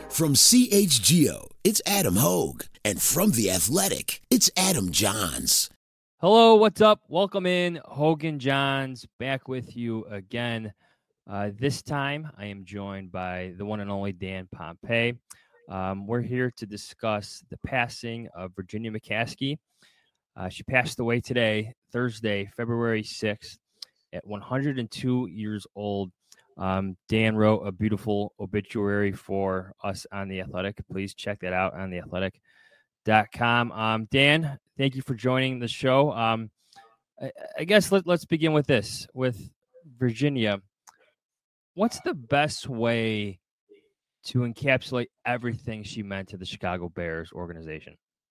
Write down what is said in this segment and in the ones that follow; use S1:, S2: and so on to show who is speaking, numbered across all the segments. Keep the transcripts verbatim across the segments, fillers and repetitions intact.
S1: From C H G O, it's Adam Hogue. And from The Athletic, it's Adam Johns.
S2: Hello, what's up? Welcome in. Hogan Johns back with you again. Uh, this time, I am joined by the one and only Dan Pompei. Um, we're here to discuss the passing of Virginia McCaskey. Uh, she passed away today, Thursday, February sixth, at one hundred two years old. Um, Dan wrote a beautiful obituary for us on The Athletic. Please check that out on the athletic dot com. Um, Dan, thank you for joining the show. Um, I, I guess let, let's begin with this. With Virginia, what's the best way to encapsulate everything she meant to the Chicago Bears organization?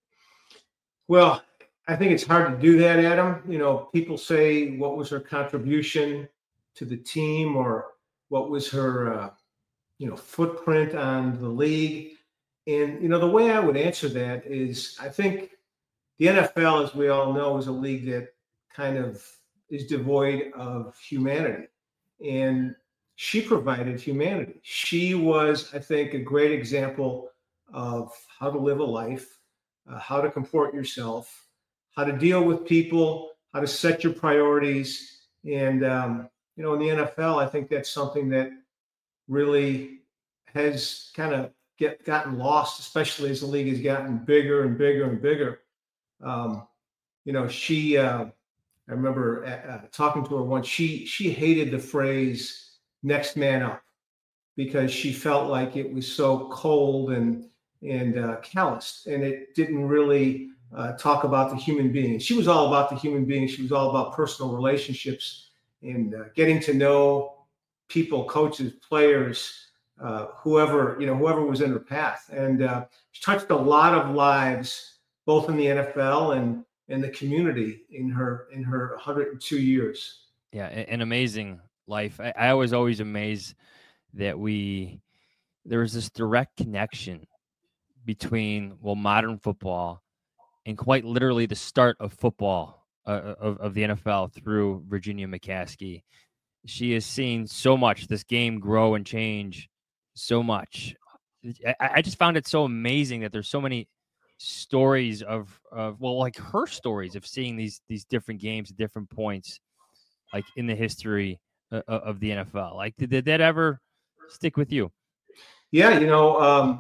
S3: Well, I think it's hard to do that, Adam. You know, people say, what was her contribution to the team, or what was her, uh, you know, footprint on the league? And, you know, the way I would answer that is, I think the N F L, as we all know, is a league that kind of is devoid of humanity. And she provided humanity. She was, I think, a great example of how to live a life, uh, how to comport yourself, how to deal with people, how to set your priorities. And, um, you know, in the N F L, I think that's something that really has kind of get gotten lost, especially as the league has gotten bigger and bigger and bigger. Um, you know, she, uh, I remember uh, talking to her once, she, she hated the phrase next man up because she felt like it was so cold and, and uh, calloused, and it didn't really uh, talk about the human being. She was all about the human being. She was all about personal relationships and uh, getting to know people, coaches, players, uh, whoever, you know, whoever was in her path. And uh, she touched a lot of lives, both in the N F L and in the community in her, in her one hundred two years.
S2: Yeah, an amazing life. I, I was always amazed that we, there was this direct connection between, well, modern football and quite literally the start of football uh, of, of the N F L through Virginia McCaskey. She has seen so much, this game grow and change so much. I, I just found it so amazing that there's so many stories of, of, well, like her stories of seeing these, these different games at different points, like in the history of, of the N F L. Like, did, did that ever stick with you?
S3: Yeah. You know, um,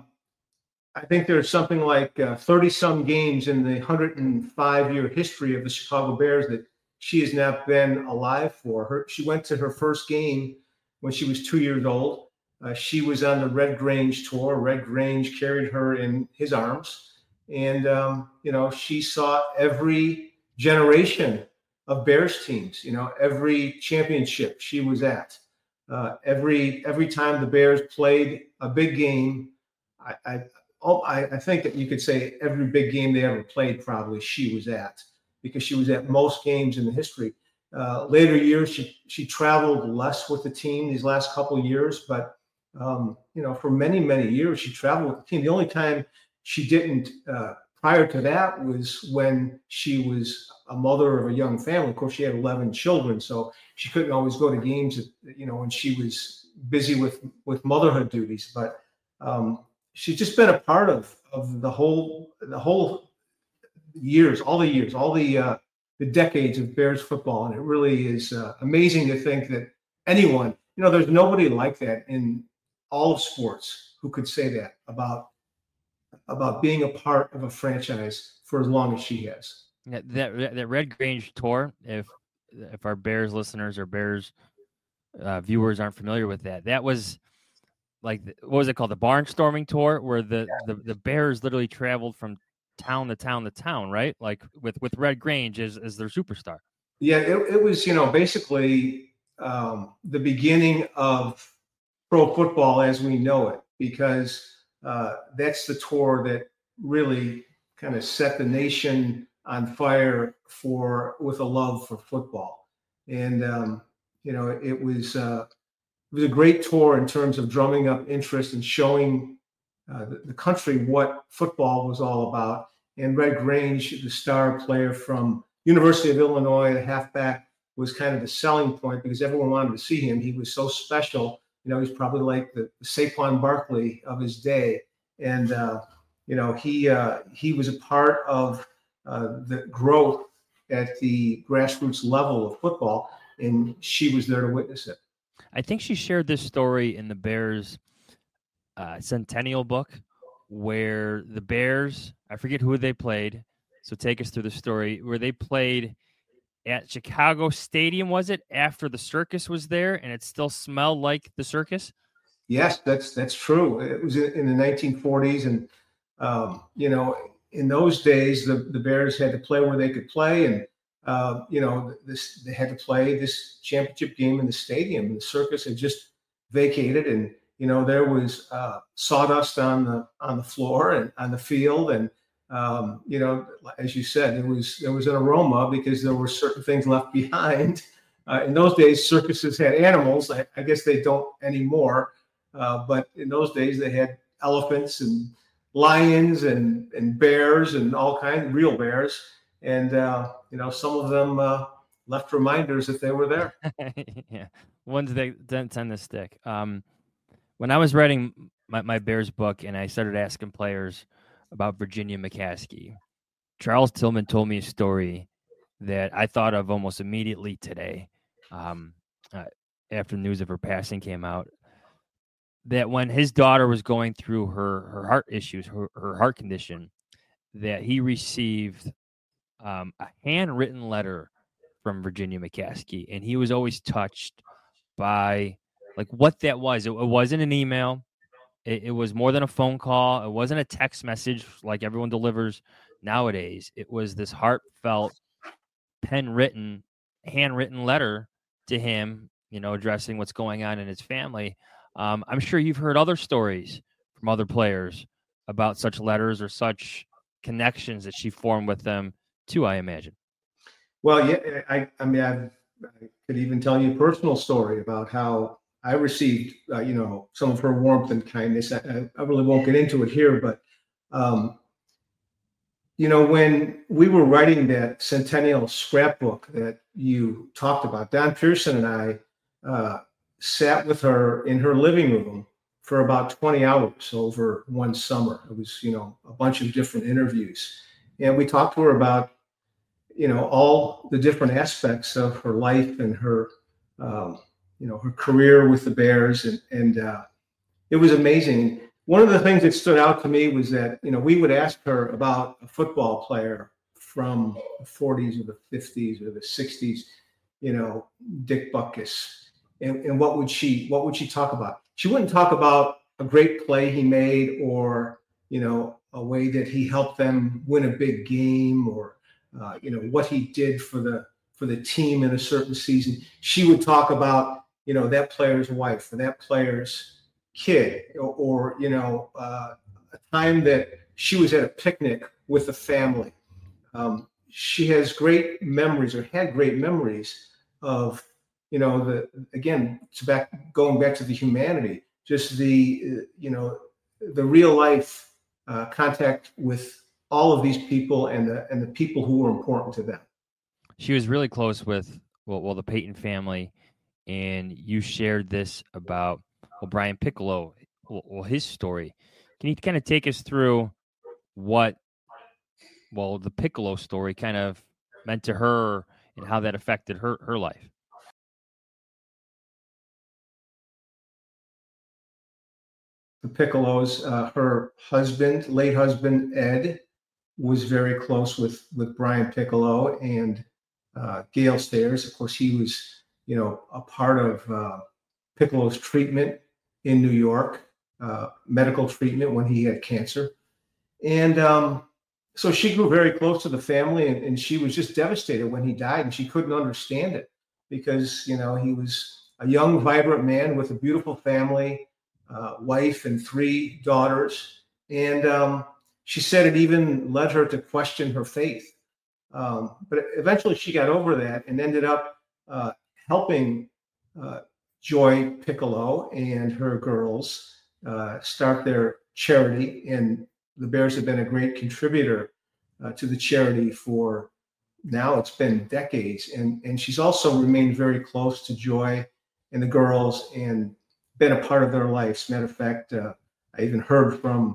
S3: I think there's something like uh, thirty some games in the one hundred five year history of the Chicago Bears that she has now been alive for. Her, she went to her first game when she was two years old. Uh, she was on the Red Grange tour. Red Grange carried her in his arms. And, um, you know, she saw every generation of Bears teams, you know, every championship she was at. Uh, every every time the Bears played a big game, I, I, oh, I, I think that you could say every big game they ever played, probably she was at, because she was at most games in the history. Uh, later years, she she traveled less with the team these last couple of years, but um, you know, for many many years she traveled with the team. The only time she didn't uh, prior to that was when she was a mother of a young family. Of course, she had eleven children, so she couldn't always go to games, you know, when she was busy with with motherhood duties. But um, she's just been a part of of the whole the whole. years, all the years, all the uh, the decades of Bears football. And it really is uh, amazing to think that anyone, you know, there's nobody like that in all of sports who could say that about about being a part of a franchise for as long as she has.
S2: Yeah, that that Red Grange tour, if if our Bears listeners or Bears uh, viewers aren't familiar with that, that was like, what was it called? The barnstorming tour, where the, the, the Bears literally traveled from town to town to town, right? Like with, with Red Grange as, as their superstar.
S3: Yeah, it, it was, you know, basically um, the beginning of pro football as we know it, because uh, that's the tour that really kind of set the nation on fire for with a love for football. And, um, you know, it was uh, it was a great tour in terms of drumming up interest and showing uh, the, the country what football was all about. And Red Grange, the star player from University of Illinois, the halfback, was kind of the selling point because everyone wanted to see him. He was so special. You know, he's probably like the, the Saquon Barkley of his day. and uh, you know he uh, he was a part of uh, the growth at the grassroots level of football, and she was there to witness it.
S2: I think she shared this story in the Bears uh, Centennial book, where the Bears, I forget who they played, so take us through the story, where they played at Chicago Stadium, was it, after the circus was there, and it still smelled like the circus?
S3: Yes, that's that's true. It was in the nineteen forties, and um, you know, in those days, the, the Bears had to play where they could play, and uh, you know, this they had to play this championship game in the stadium. And the circus had just vacated, and you know, there was uh, sawdust on the on the floor and on the field, and um, you know, as you said, there was there was an aroma because there were certain things left behind. Uh, in those days, circuses had animals. I, I guess they don't anymore. Uh, but in those days, they had elephants and lions and, and bears and all kinds of real bears. And, uh, you know, some of them uh, left reminders that they were there.
S2: Yeah, ones that tend to stick. Um, when I was writing my, my Bears book and I started asking players about Virginia McCaskey, Charles Tillman told me a story that I thought of almost immediately today um, uh, after news of her passing came out. That when his daughter was going through her, her heart issues, her, her heart condition, that he received um, a handwritten letter from Virginia McCaskey. And he was always touched by like what that was. It, it wasn't an email. It, it was more than a phone call. It wasn't a text message like everyone delivers nowadays. It was this heartfelt, pen written, handwritten letter to him, you know, addressing what's going on in his family. Um, I'm sure you've heard other stories from other players about such letters or such connections that she formed with them too, I imagine.
S3: Well, yeah, I, I mean, I've, I could even tell you a personal story about how I received, uh, you know, some of her warmth and kindness. I, I really won't get into it here, but, um, you know, when we were writing that Centennial scrapbook that you talked about, Don Pearson and I, uh, sat with her in her living room for about twenty hours over one summer. It was, you know, a bunch of different interviews. And we talked to her about, you know, all the different aspects of her life and her, um, you know, her career with the Bears. And, and uh, it was amazing. One of the things that stood out to me was that, you know, we would ask her about a football player from the forties or the fifties or the sixties, you know, Dick Butkus. And, and what would she what would she talk about? She wouldn't talk about a great play he made or, you know, a way that he helped them win a big game or, uh, you know, what he did for the for the team in a certain season. She would talk about, you know, that player's wife or that player's kid or, or you know, uh, a time that she was at a picnic with the family. Um, she has great memories or had great memories of, you know, the, again, it's back, going back to the humanity, just the, uh, you know, the real life uh, contact with all of these people and the, and the people who were important to them.
S2: She was really close with, well, well, the Peyton family. And you shared this about, well, Brian Piccolo, well, well, his story. Can you kind of take us through what, well, the Piccolo story kind of meant to her and how that affected her, her life?
S3: The Piccolos, uh, her husband, late husband, Ed, was very close with, with Brian Piccolo and uh, Gale Stairs. Of course, he was, you know, a part of uh, Piccolo's treatment in New York, uh, medical treatment when he had cancer. And um, so she grew very close to the family, and, and she was just devastated when he died, and she couldn't understand it because, you know, he was a young, vibrant man with a beautiful family, uh, wife and three daughters. And um, she said it even led her to question her faith. Um, but eventually she got over that and ended up uh, helping uh, Joy Piccolo and her girls uh, start their charity. And the Bears have been a great contributor uh, to the charity for now it's been decades. And, and she's also remained very close to Joy and the girls and been a part of their lives. Matter of fact, uh, I even heard from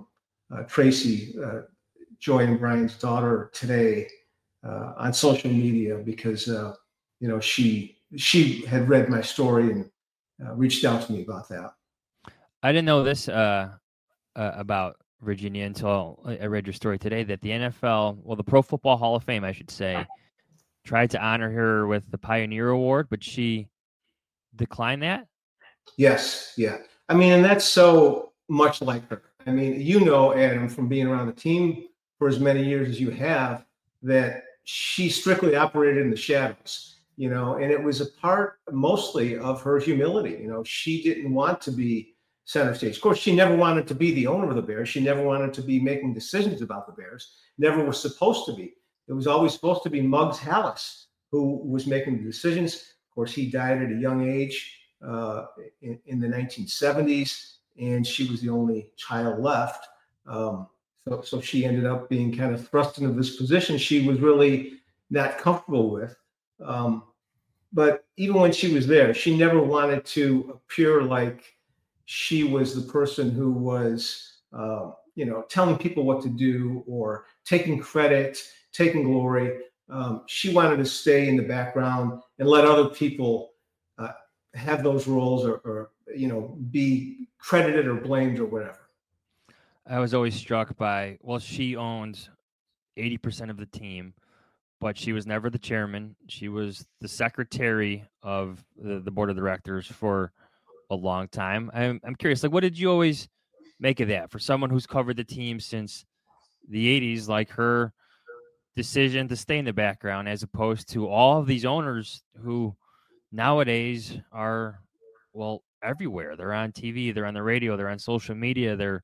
S3: uh, Tracy, uh, Joy and Brian's daughter, today uh, on social media because uh, you know she she had read my story and uh, reached out to me about that.
S2: I didn't know this uh, uh, about Virginia until I read your story today. That the N F L, well, the Pro Football Hall of Fame, I should say, tried to honor her with the Pioneer Award, but she declined that.
S3: Yes, yeah. I mean, and that's so much like her. I mean, you know, Adam, from being around the team for as many years as you have, that she strictly operated in the shadows, you know, and it was a part mostly of her humility. You know, she didn't want to be center stage. Of course, she never wanted to be the owner of the Bears. She never wanted to be making decisions about the Bears. Never was supposed to be. It was always supposed to be Muggs Hallis who was making the decisions. Of course, he died at a young age uh, in, in the nineteen seventies, and she was the only child left. Um, so, so she ended up being kind of thrust into this position she was really not comfortable with. Um, but even when she was there, she never wanted to appear like she was the person who was, uh, you know, telling people what to do or taking credit, taking glory. Um, she wanted to stay in the background and let other people uh, have those roles or, or, you know, be credited or blamed or whatever.
S2: I was always struck by, well, she owned eighty percent of the team, but she was never the chairman. She was the secretary of the, the board of directors for a long time. I'm, I'm curious, like, what did you always make of that for someone who's covered the team since the eighties, like her decision to stay in the background as opposed to all of these owners who nowadays are, well, everywhere. They're on T V, they're on the radio, they're on social media, they're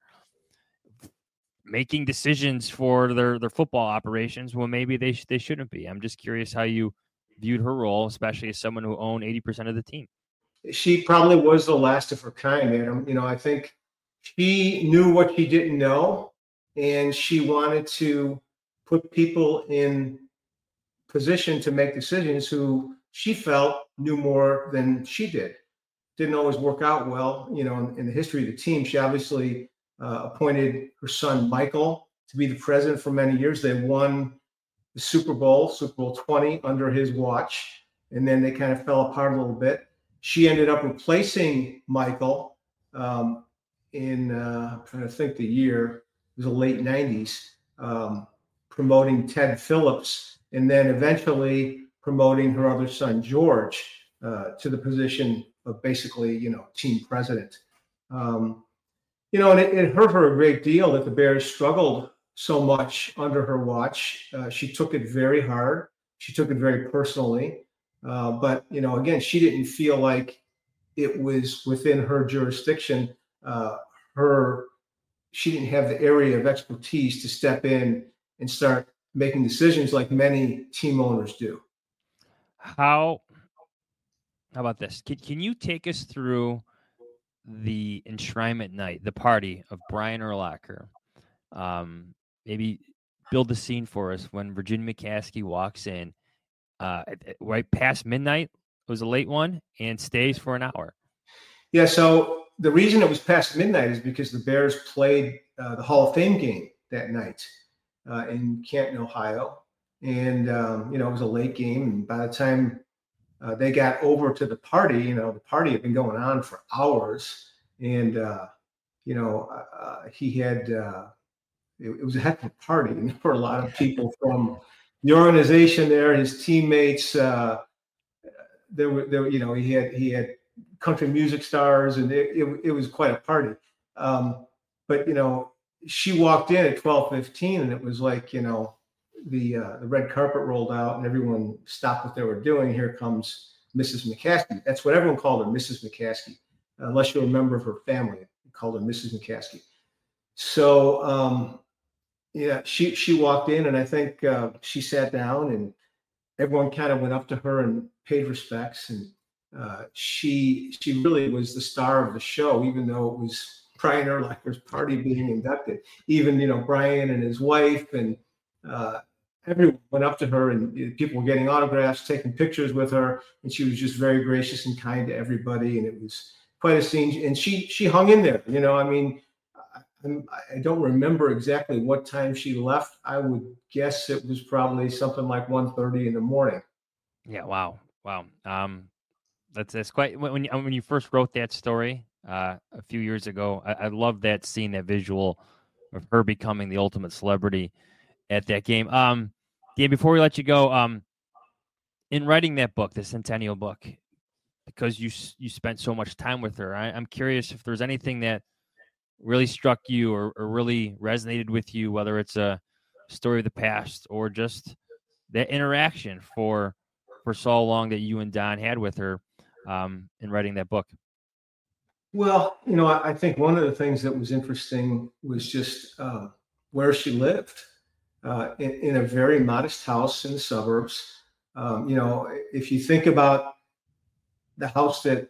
S2: making decisions for their, their football operations when maybe they sh- they shouldn't be. I'm just curious how you viewed her role, especially as someone who owned eighty percent of the team.
S3: She probably was the last of her kind, Adam. You know, I think she knew what she didn't know, and she wanted to put people in position to make decisions who she felt knew more than she did. Didn't always work out well, you know, in, in the history of the team. She obviously uh, appointed her son, Michael, to be the president for many years. They won the Super Bowl, Super Bowl twenty, under his watch, and then they kind of fell apart a little bit. She ended up replacing Michael um, in, uh, I'm trying to think the year, it was the late nineties, um, promoting Ted Phillips, and then eventually promoting her other son, George, uh, to the position of basically, you know, team president. Um, you know, and it, it hurt her a great deal that the Bears struggled so much under her watch. Uh, she took it very hard. She took it very personally. Uh, but, you know, again, she didn't feel like it was within her jurisdiction. Uh, her, she didn't have the area of expertise to step in and start making decisions like many team owners do.
S2: How, how about this? Can, can you take us through the enshrinement night, the party of Brian Urlacher? Um, maybe build the scene for us when Virginia McCaskey walks in uh, right past midnight. It was a late one and stays for an hour.
S3: Yeah, so the reason it was past midnight is because the Bears played uh, the Hall of Fame game that night uh, in Canton, Ohio. And, um, you know, it was a late game. And by the time uh, they got over to the party, you know, the party had been going on for hours. And, uh, you know, uh, he had, uh, it, it was a heck of a party. And there were a lot of people from the organization there, his teammates. Uh, there were, there, you know, he had, he had country music stars, and it, it, it was quite a party. Um, but, you know, she walked in at twelve fifteen, and it was like, you know, the uh, the red carpet rolled out and everyone stopped what they were doing. Here comes Missus McCaskey. That's what everyone called her, Missus McCaskey, unless you're a member of her family. They called her Missus McCaskey. So, um, yeah, she she walked in, and I think uh, she sat down, and everyone kind of went up to her and paid respects. And uh, she she really was the star of the show, even though it was Brian Urlacher's party being inducted. Even, you know, Brian and his wife and uh, everyone went up to her, and people were getting autographs, taking pictures with her, and she was just very gracious and kind to everybody. And it was quite a scene. And she she hung in there. You know, I mean, I don't remember exactly what time she left. I would guess it was probably something like one thirty in the morning.
S2: Yeah. Wow. Wow. Um, that's that's quite when when you, when you first wrote that story uh, a few years ago. I, I love that scene, that visual of her becoming the ultimate celebrity at that game. Um, Dan, before we let you go, um, in writing that book, the Centennial book, because you you spent so much time with her, I, I'm curious if there's anything that really struck you or, or really resonated with you, whether it's a story of the past or just that interaction for for so long that you and Don had with her um, in writing that book.
S3: Well, you know, I, I think one of the things that was interesting was just um, where she lived uh, in, in a very modest house in the suburbs. Um, you know, if you think about the house that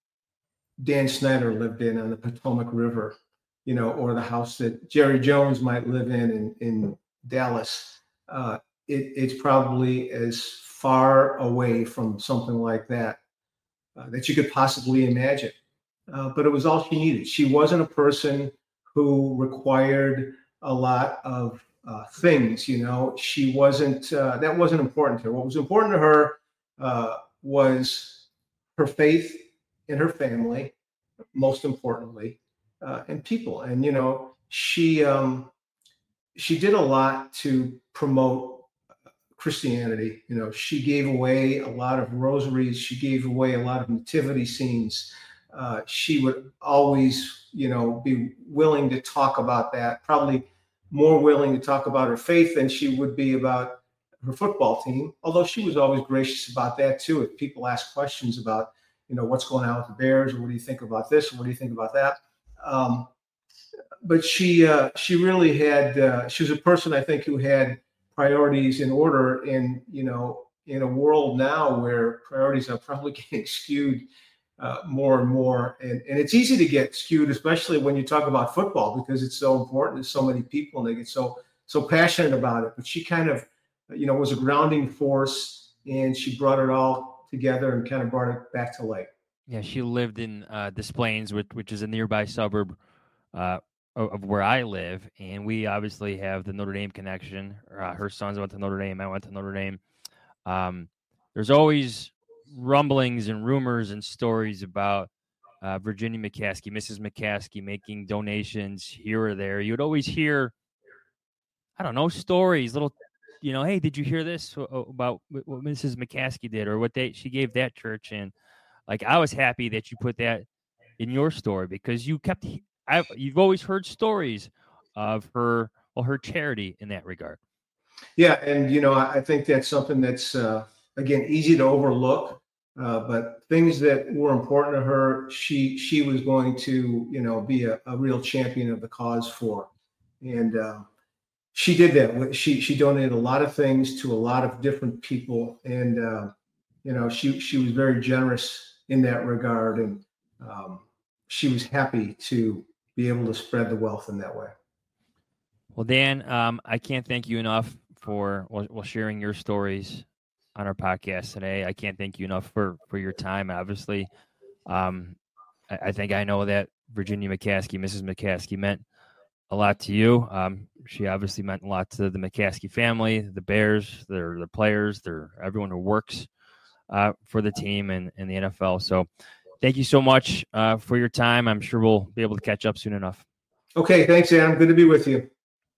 S3: Dan Snyder lived in on the Potomac River, you know, or the house that Jerry Jones might live in in, in Dallas, uh, it, it's probably as far away from something like that uh, that you could possibly imagine. Uh, but it was all she needed. She wasn't a person who required a lot of uh, things, you know. She wasn't, uh, that wasn't important to her. What was important to her uh, was her faith in her family, most importantly, uh, and people. And, you know, she, um, she did a lot to promote Christianity. You know, she gave away a lot of rosaries. She gave away a lot of nativity scenes. Uh, she would always, you know, be willing to talk about that, probably more willing to talk about her faith than she would be about her football team, although she was always gracious about that too. If people ask questions about, you know, what's going on with the Bears, or what do you think about this, or what do you think about that? Um, but she uh, she really had, uh, she was a person, I think, who had priorities in order in, you know, in a world now where priorities are probably getting skewed uh, more and more. And, and it's easy to get skewed, especially when you talk about football, because it's so important to so many people and they get so, so passionate about it. But she kind of, you know, was a grounding force, and she brought it all together and kind of brought it back to life.
S2: Yeah, she lived in uh, Des Plaines, which, which is a nearby suburb uh, of where I live, and we obviously have the Notre Dame connection. Uh, her sons went to Notre Dame. I went to Notre Dame. Um, there's always rumblings and rumors and stories about uh, Virginia McCaskey, Missus McCaskey, making donations here or there. You would always hear, I don't know, stories, little, you know, hey, did you hear this about what Missus McCaskey did, or what they she gave that church? And like, I was happy that you put that in your story, because you kept, I've, you've always heard stories of her, well, her charity in that regard.
S3: Yeah. And, you know, I think that's something that's, uh, again, easy to overlook, uh, but things that were important to her, she, she was going to, you know, be a, a real champion of the cause for. And uh, she did that. She, she donated a lot of things to a lot of different people. And, uh, you know, she, she was very generous in that regard. And um, she was happy to be able to spread the wealth in that way.
S2: Well, Dan, um, I can't thank you enough for well, well, sharing your stories on our podcast today. I can't thank you enough for, for your time. Obviously, um, I, I think I know that Virginia McCaskey, Missus McCaskey, meant a lot to you. Um, she obviously meant a lot to the McCaskey family, the Bears, their the players, their everyone who works uh, for the team and, and the N F L. So thank you so much uh, for your time. I'm sure we'll be able to catch up soon enough.
S3: Okay, thanks, Adam. Good to be with you.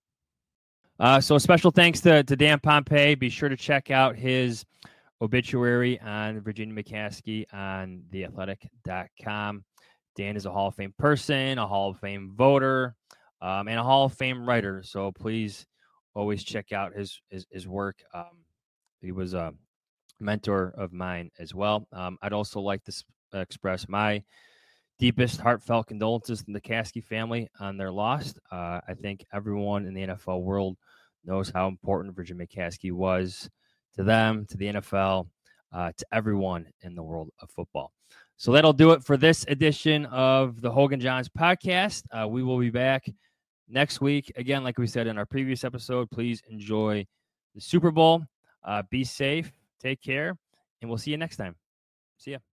S2: Uh, so a special thanks to, to Dan Pompei. Be sure to check out his obituary on Virginia McCaskey on the athletic dot com. Dan is a Hall of Fame person, a Hall of Fame voter, um, and a Hall of Fame writer. So please always check out his his, his work. Um, he was a mentor of mine as well. Um, I'd also like to uh, express my deepest heartfelt condolences to the McCaskey family on their loss. Uh, I think everyone in the N F L world knows how important Virginia McCaskey was to them, to the N F L, uh, to everyone in the world of football. So that'll do it for this edition of the Hoge and Jahns podcast. Uh, we will be back next week. Again, like we said in our previous episode, please enjoy the Super Bowl. Uh, be safe, take care, and we'll see you next time. See ya.